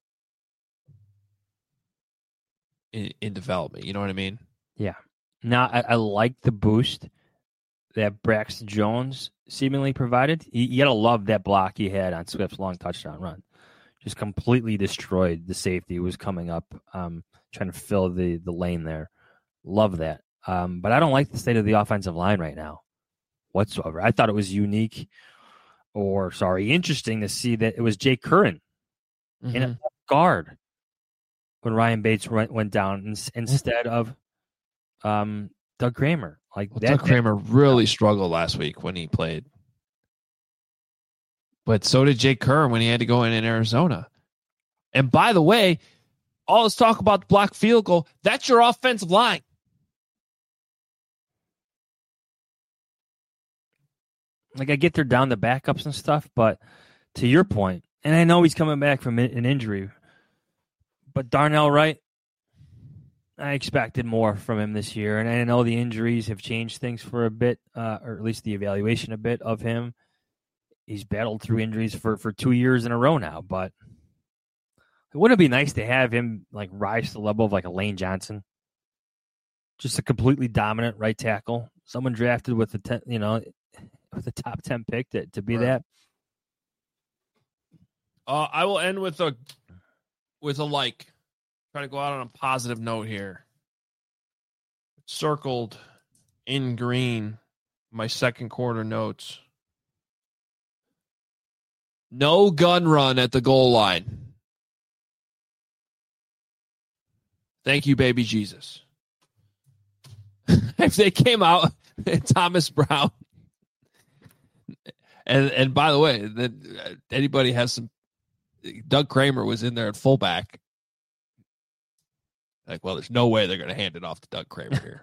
in, in development. You know what I mean? Yeah. Now, I, I like the boost that Braxton Jones seemingly provided. You, you got to love that block he had on Swift's long touchdown run. Just completely destroyed the safety who was coming up, um, trying to fill the, the lane there. Love that. Um, but I don't like the state of the offensive line right now whatsoever. I thought it was unique or, sorry, interesting to see that it was Jake Curran mm-hmm. in a guard when Ryan Bates went, went down in, instead of um, Doug Kramer. Like well, that, Doug Kramer that, really struggled last week when he played. But so did Jake Curran when he had to go in in Arizona. And by the way, all this talk about the block field goal, that's your offensive line. Like, I get they're down the backups and stuff, but to your point, and I know he's coming back from an injury, but Darnell Wright, I expected more from him this year, and I know the injuries have changed things for a bit, uh, or at least the evaluation a bit of him. He's battled through injuries for, for two years in a row now, but wouldn't it be nice to have him like rise to the level of like a Lane Johnson? Just a completely dominant right tackle, someone drafted with the ten, you know, with the top ten pick to, to be right. that. Uh, I will end with a with a like. Try to go out on a positive note here. Circled in green, my second quarter notes. No gun run at the goal line. Thank you, baby Jesus. If they came out, Thomas Brown, and and by the way, that anybody has some, Doug Kramer was in there at fullback. Like, well, there's no way they're going to hand it off to Doug Kramer here.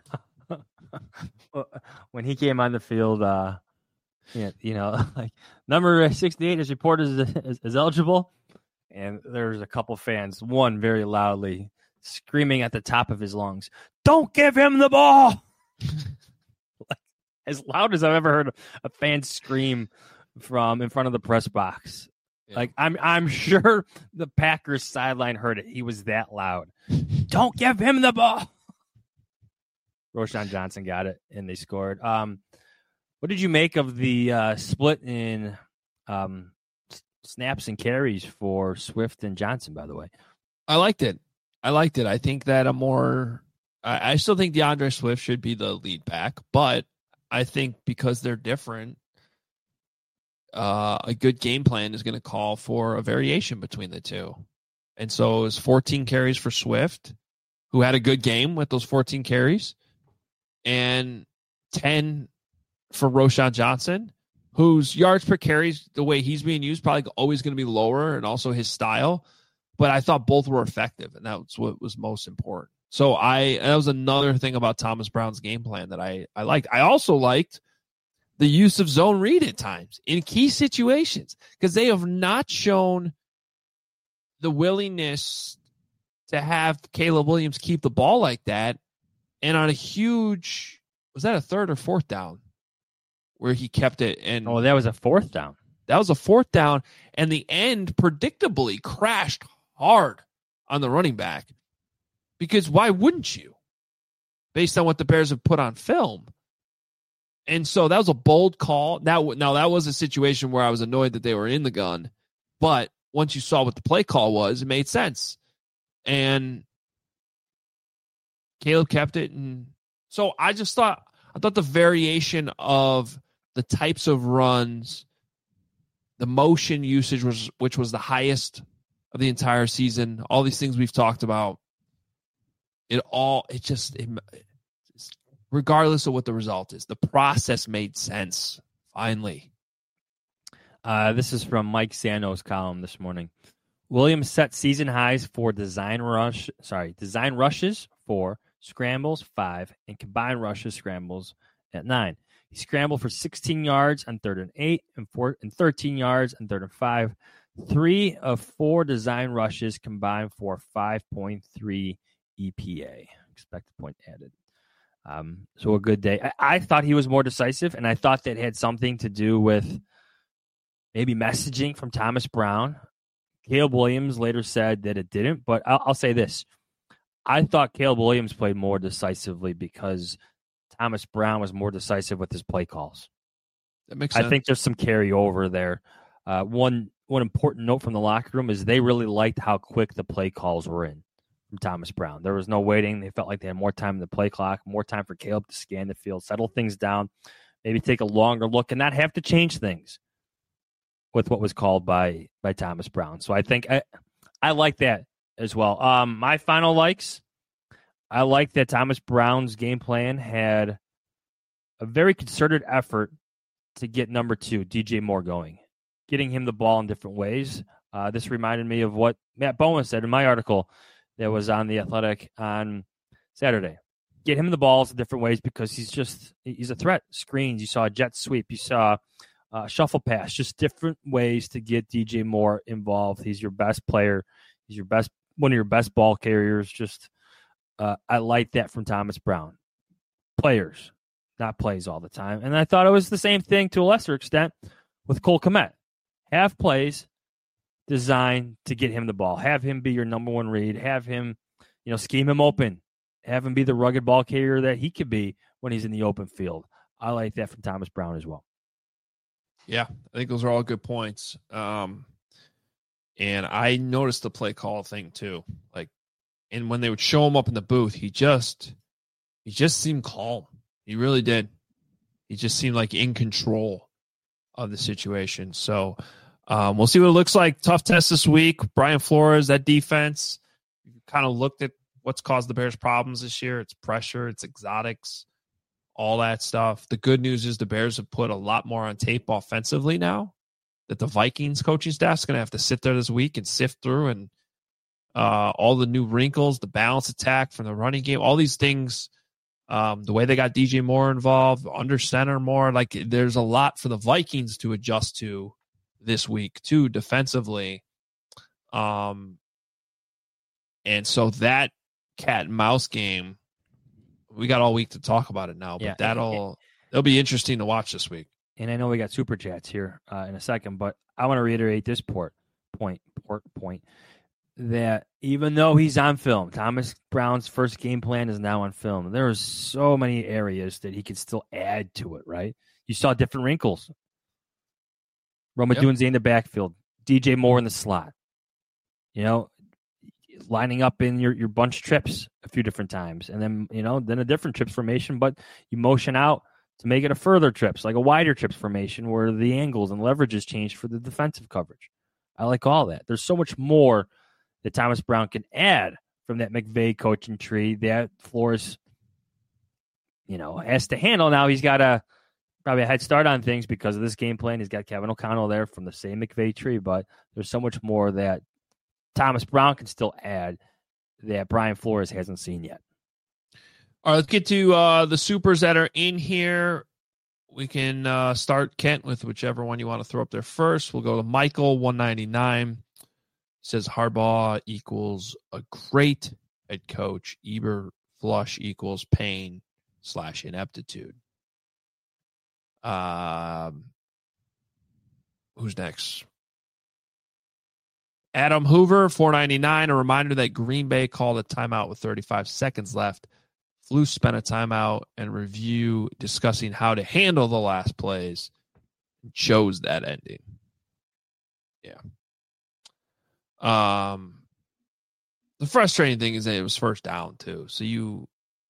When he came on the field, uh, yeah, you know, like number sixty-eight is reported as, as, as eligible, and there's a couple fans, one very loudly screaming at the top of his lungs, "Don't give him the ball!" Like, as loud as I've ever heard a fan scream from in front of the press box. Yeah. Like, I'm I'm sure the Packers sideline heard it. He was that loud. Don't give him the ball. Roschon Johnson got it, and they scored. Um, what did you make of the uh, split in um, snaps and carries for Swift and Johnson, by the way? I liked it. I liked it. I think that a more I, I still think DeAndre Swift should be the lead back, but I think because they're different, uh, a good game plan is going to call for a variation between the two. And so it was fourteen carries for Swift, who had a good game with those fourteen carries, and ten for Roschon Johnson, whose yards per carry, the way he's being used, probably always going to be lower, and also his style. But I thought both were effective, and that's what was most important. So I that was another thing about Thomas Brown's game plan that I, I liked. I also liked the use of zone read at times in key situations, because they have not shown the willingness to have Caleb Williams keep the ball like that. And on a huge, was that a third or fourth down where he kept it? And oh, that was a fourth down. That was a fourth down. And the end predictably crashed hard on the running back, because why wouldn't you, based on what the Bears have put on film? And so that was a bold call. Now, now that was a situation where I was annoyed that they were in the gun, but once you saw what the play call was, it made sense. And Caleb kept it. And so I just thought, I thought the variation of the types of runs, the motion usage was, which was the highest of the entire season, all these things we've talked about, it all, it just, it, regardless of what the result is, the process made sense, finally. Uh, this is from Mike Sano's column this morning. Williams set season highs for design rush, sorry, design rushes for scrambles, five, and combined rushes, scrambles at nine. He scrambled for sixteen yards on third and eight, and four and thirteen yards on third and five. Three of four design rushes combined for five point three E P A, expected point added. Um, so a good day. I, I thought he was more decisive, and I thought that had something to do with maybe messaging from Thomas Brown. Caleb Williams later said that it didn't, but I'll, I'll say this. I thought Caleb Williams played more decisively because Thomas Brown was more decisive with his play calls. That makes sense. I think there's some carryover there. Uh, one one important note from the locker room is they really liked how quick the play calls were in from Thomas Brown. There was no waiting. They felt like they had more time in the play clock, more time for Caleb to scan the field, settle things down, maybe take a longer look, and not have to change things with what was called by by Thomas Brown. So I think I, I like that as well. Um, my final likes, I like that Thomas Brown's game plan had a very concerted effort to get number two, D J Moore, going, getting him the ball in different ways. Uh, this reminded me of what Matt Bowen said in my article that was on The Athletic on Saturday. Get him the balls in different ways because he's just, he's a threat. Screens, you saw a jet sweep, you saw uh, shuffle pass, just different ways to get D J Moore involved. He's your best player. He's your best, one of your best ball carriers. Just, uh, I like that from Thomas Brown. Players, not plays all the time. And I thought it was the same thing to a lesser extent with Cole Kmet. Have plays designed to get him the ball. Have him be your number one read. Have him, you know, scheme him open. Have him be the rugged ball carrier that he could be when he's in the open field. I like that from Thomas Brown as well. Yeah, I think those are all good points. Um, and I noticed the play call thing too. Like, and when they would show him up in the booth, he just, he just seemed calm. He really did. He just seemed like in control of the situation. So um, we'll see what it looks like. Tough test this week. Brian Flores, that defense, kind of looked at what's caused the Bears problems this year. It's pressure, it's exotics, all that stuff. The good news is the Bears have put a lot more on tape offensively now, that the Vikings coaching staff is going to have to sit there this week and sift through, and uh, all the new wrinkles, the balance attack from the running game, all these things, um, the way they got D J Moore involved, under center more, like there's a lot for the Vikings to adjust to this week too, defensively. Um, and so that cat and mouse game, we got all week to talk about it now, but Yeah. that'll, it'll be interesting to watch this week. And I know we got super chats here uh, in a second, but I want to reiterate this port, point, port, point, that even though he's on film, Thomas Brown's first game plan is now on film. There are so many areas that he could still add to it, right? You saw different wrinkles. Roma Yep. Dunze in the backfield, D J Moore in the slot. You know, lining up in your, your bunch trips a few different times, and then, you know, then a different trips formation, but you motion out to make it a further trips, like a wider trips formation where the angles and leverages change for the defensive coverage. I like all that. There's so much more that Thomas Brown can add from that McVay coaching tree that Flores, you know, has to handle. Now he's got a probably a head start on things because of this game plan. He's got Kevin O'Connell there from the same McVay tree, but there's so much more that Thomas Brown can still add that Brian Flores hasn't seen yet. All right, let's get to uh, the supers that are in here. We can uh, start, Kent, with whichever one you want to throw up there first. We'll go to Michael, one ninety-nine. Says Harbaugh equals a great head coach. Eberflus equals pain slash ineptitude. Um, who's next? Adam Hoover, four ninety-nine. A reminder that Green Bay called a timeout with thirty-five seconds left. Flus spent a timeout and review discussing how to handle the last plays. Chose that ending. Yeah. Um, the frustrating thing is that it was first down too. So you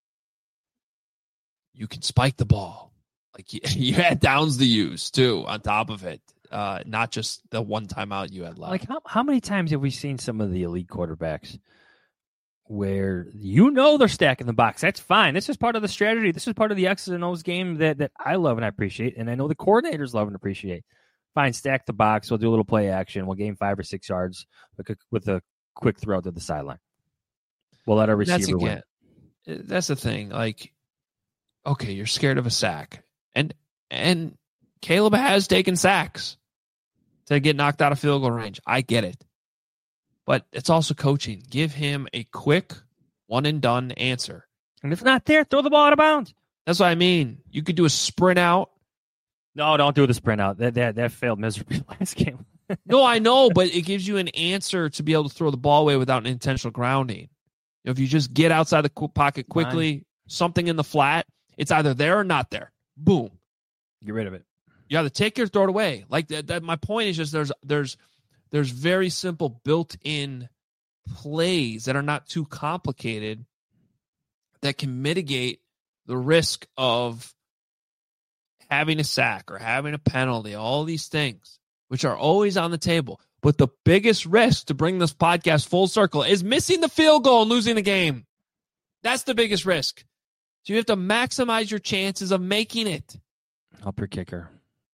you can spike the ball. Like you, you had downs to use too on top of it. Uh, not just the one timeout you had left. Like how how many times have we seen some of the elite quarterbacks where you know they're stacking the box? That's fine. This is part of the strategy. This is part of the X's and O's game that, that I love and I appreciate, and I know the coordinators love and appreciate. Fine, stack the box. We'll do a little play action. We'll gain five or six yards with a, with a quick throw to the sideline. We'll let our receiver that's again, win. That's the thing. Like, okay, you're scared of a sack. And and Caleb has taken sacks to get knocked out of field goal range. I get it. But it's also coaching. Give him a quick one and done answer. And if not there, throw the ball out of bounds. That's what I mean. You could do a sprint out. No, don't do the sprint out. That that, that failed miserably last game. No, I know, but it gives you an answer to be able to throw the ball away without an intentional grounding. You know, if you just get outside the pocket quickly, Fine. Something in the flat, it's either there or not there. Boom. Get rid of it. You either take it or throw it away. Like that, that my point is just there's there's there's very simple built-in plays that are not too complicated that can mitigate the risk of having a sack or having a penalty, all these things, which are always on the table. But the biggest risk to bring this podcast full circle is missing the field goal and losing the game. That's the biggest risk. So you have to maximize your chances of making it. Help your kicker.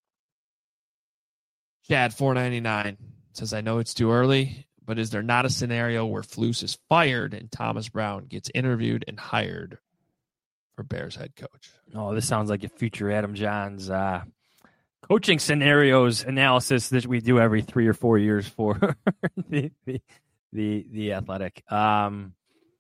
Chad, four ninety-nine, says, I know it's too early, but is there not a scenario where Flus is fired and Thomas Brown gets interviewed and hired for Bears head coach? Oh, this sounds like a future Adam Johns uh, coaching scenarios analysis that we do every three or four years for the, the the the Athletic. Um,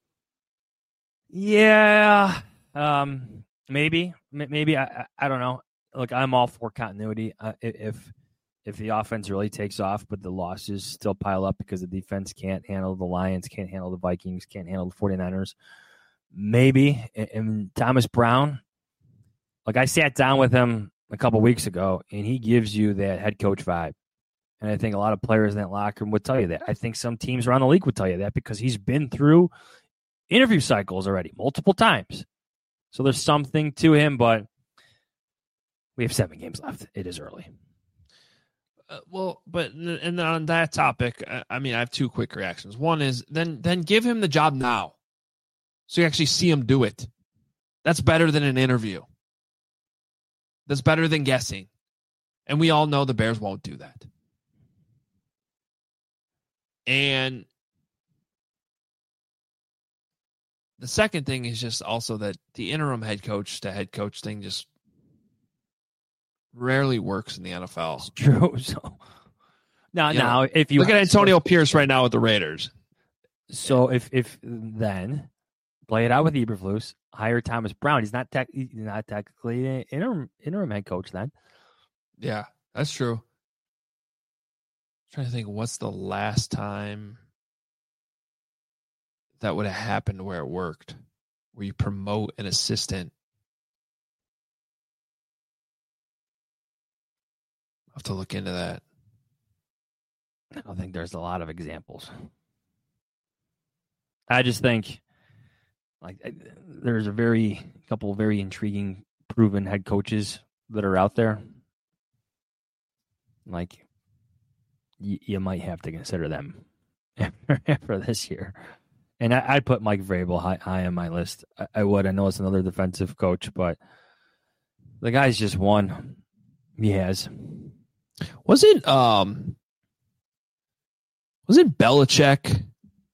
yeah, um, maybe, maybe I, I don't know. Look, I'm all for continuity. Uh, if if the offense really takes off, but the losses still pile up because the defense can't handle the Lions, can't handle the Vikings, can't handle the 49ers. Maybe. And Thomas Brown, like I sat down with him a couple weeks ago, and he gives you that head coach vibe. And I think a lot of players in that locker room would tell you that. I think some teams around the league would tell you that because he's been through interview cycles already multiple times. So there's something to him, but we have seven games left. It is early. Uh, well, but and on that topic, I mean, I have two quick reactions. One is then then give him the job now, so you actually see him do it. That's better than an interview. That's better than guessing, and we all know the Bears won't do that. And the second thing is just also that the interim head coach to head coach thing just rarely works in the N F L. It's true. So now, you now, know, if you look at Antonio Pierce right now with the Raiders. So if if then play it out with Eberflus, hire Thomas Brown. He's not tech, he's not technically an interim interim head coach then. Yeah, that's true. I'm trying to think, what's the last time that would have happened where it worked, where you promote an assistant? I'll have to look into that. I don't think there's a lot of examples. I just think like there's a very couple of very intriguing proven head coaches that are out there. Like y- you might have to consider them after this year. And I, I'd put Mike Vrabel high, high on my list. I, I would. I know it's another defensive coach, but the guy's just won. He has. Was it um was it Belichick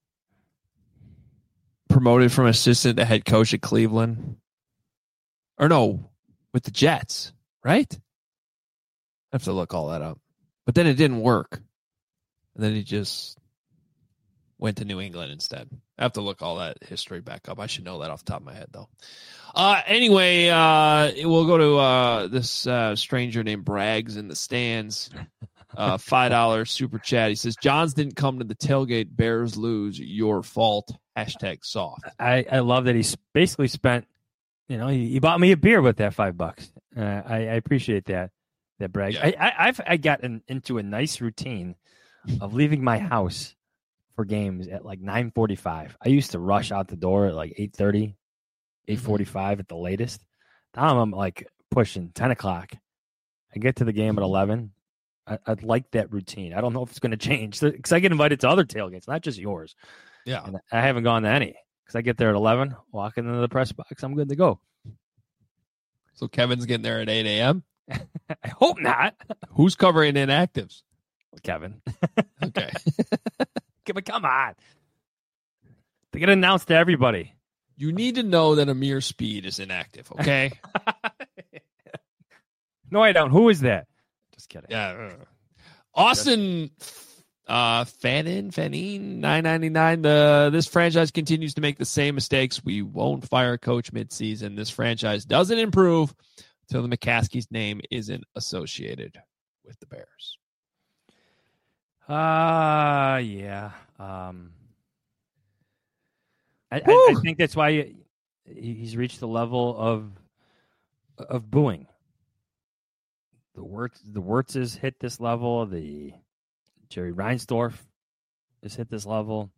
promoted from assistant to head coach at Cleveland? Or no, with the Jets, right? I have to look all that up. But then it didn't work. And then he just went to New England instead. I have to look all that history back up. I should know that off the top of my head, though. Uh, anyway, uh, we'll go to uh, this uh, stranger named Braggs in the stands. Uh, five dollars super chat. He says, Johns didn't come to the tailgate. Bears lose. Your fault. Hashtag soft. I, I love that he basically spent, you know, he, he bought me a beer with that five bucks. Uh, I, I appreciate that, that Bragg. Yeah. I, I, I've I gotten into a nice routine of leaving my house for games at like nine forty-five. I used to rush out the door at like eight thirty, eight forty-five at the latest. Now I'm like pushing ten o'clock. I get to the game at eleven. I, I'd like that routine. I don't know if it's going to change because I get invited to other tailgates, not just yours. Yeah. And I haven't gone to any because I get there at eleven, walk into the press box. I'm good to go. So Kevin's getting there at eight a.m.? I hope not. Who's covering inactives? Kevin. Okay. But come on. They get announced to everybody. You need to know that Amir Speed is inactive, okay? No, I don't. Who is that? Just kidding. Yeah. Austin uh, Fannin, Fannin, nine ninety-nine. The this franchise continues to make the same mistakes. We won't fire a coach midseason. This franchise doesn't improve until the McCaskey's name isn't associated with the Bears. Uh yeah. Um, I, I, I think that's why he, he's reached the level of of booing. The Wirtz, the Wirtzes hit this level. The Jerry Reinsdorf has hit this level.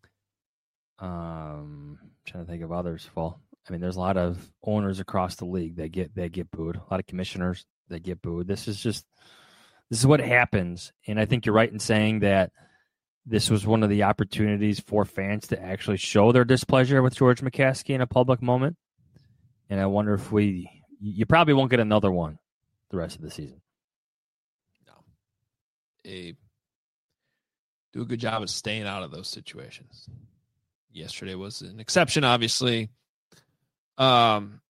Um, I'm trying to think of others. Well, I mean, there's a lot of owners across the league that get that get booed. A lot of commissioners that get booed. This is just this is what happens. And I think you're right in saying that this was one of the opportunities for fans to actually show their displeasure with George McCaskey in a public moment. And I wonder if we, you probably won't get another one the rest of the season. No. A, do a good job of staying out of those situations. Yesterday was an exception, obviously. Um,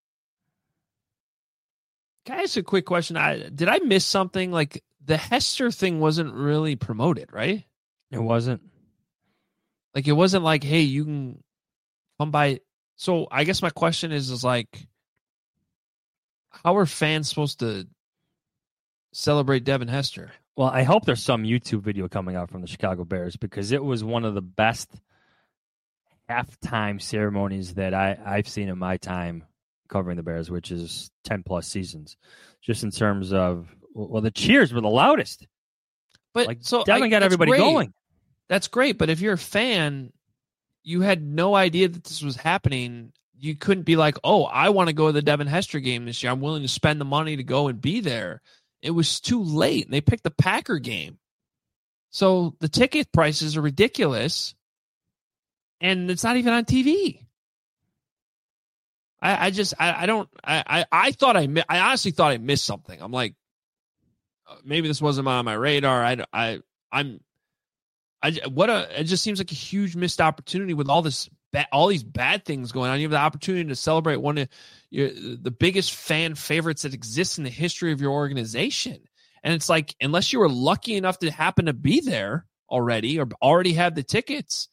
can I ask a quick question? I did I miss something? Like the Hester thing wasn't really promoted, right? It wasn't. Like it wasn't like, hey, you can come by. So I guess my question is, is like, how are fans supposed to celebrate Devin Hester? Well, I hope there's some YouTube video coming out from the Chicago Bears because it was one of the best halftime ceremonies that I, I've seen in my time covering the Bears, which is ten plus seasons. Just in terms of, well, the cheers were the loudest. But like, so Devin I, got everybody great. going. That's great. But if you're a fan, you had no idea that this was happening. You couldn't be like, oh, I want to go to the Devin Hester game this year. I'm willing to spend the money to go and be there. It was too late. They picked the Packer game. So the ticket prices are ridiculous. And it's not even on T V. I, I just, I, I don't, I, I, I thought I, I honestly thought I missed something. I'm like, maybe this wasn't on my radar. I, I, I'm, I, what a, it just seems like a huge missed opportunity with all this, ba- all these bad things going on. You have the opportunity to celebrate one of your, the biggest fan favorites that exists in the history of your organization. And it's like, unless you were lucky enough to happen to be there already or already have the tickets,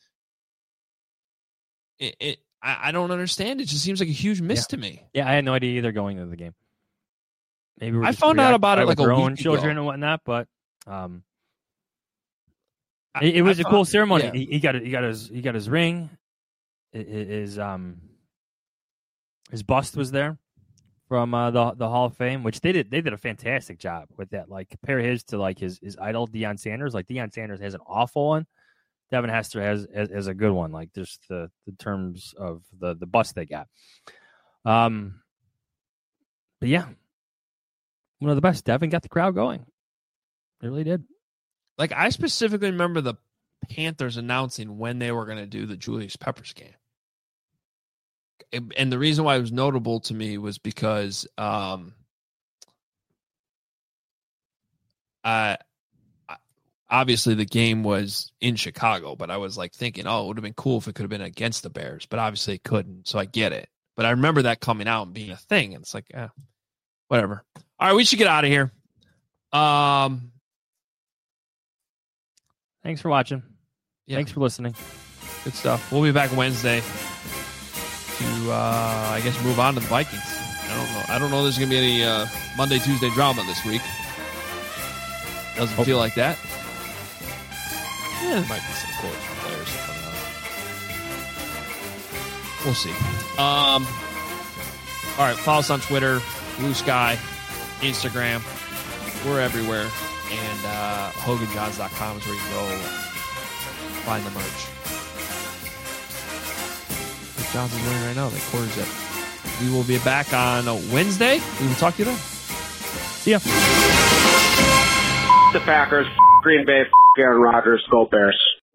it, it I, I don't understand. It just seems like a huge miss yeah. to me. Yeah, I had no idea either going to the game. Maybe we're I just found out about it like a our week own children ago. and whatnot, but um, I, it, it was I a thought, cool ceremony. Yeah. He, he got he got his he got his ring. His um his bust was there from uh, the the Hall of Fame, which they did they did a fantastic job with that. Like compare his to like his his idol Deion Sanders. Like Deion Sanders has an awful one. Devin Hester has has, has a good one. Like just the the terms of the the bust they got. Um, but yeah. One of the best. Devin got the crowd going. It really did. Like, I specifically remember the Panthers announcing when they were going to do the Julius Peppers game. And, and the reason why it was notable to me was because um, I, obviously the game was in Chicago, but I was like thinking, oh, it would have been cool if it could have been against the Bears, but obviously it couldn't. So I get it. But I remember that coming out and being a thing. And it's like, eh, whatever. All right, we should get out of here. Um, Thanks for watching. Yeah. Thanks for listening. Good stuff. We'll be back Wednesday to, uh, I guess, move on to the Vikings. I don't know. I don't know if there's going to be any uh, Monday, Tuesday drama this week. Doesn't oh. feel like that. Yeah, there might be some quotes from players coming out. We'll see. Um, all right, follow us on Twitter, Blue Sky, Instagram. We're everywhere. And uh, Hogan Johns dot com is where you can go find the merch. What Johns is wearing right now, the quarter zip. We will be back on a Wednesday. We will talk to you then. See ya. The Packers, Green Bay, Aaron Rodgers, Go Bears.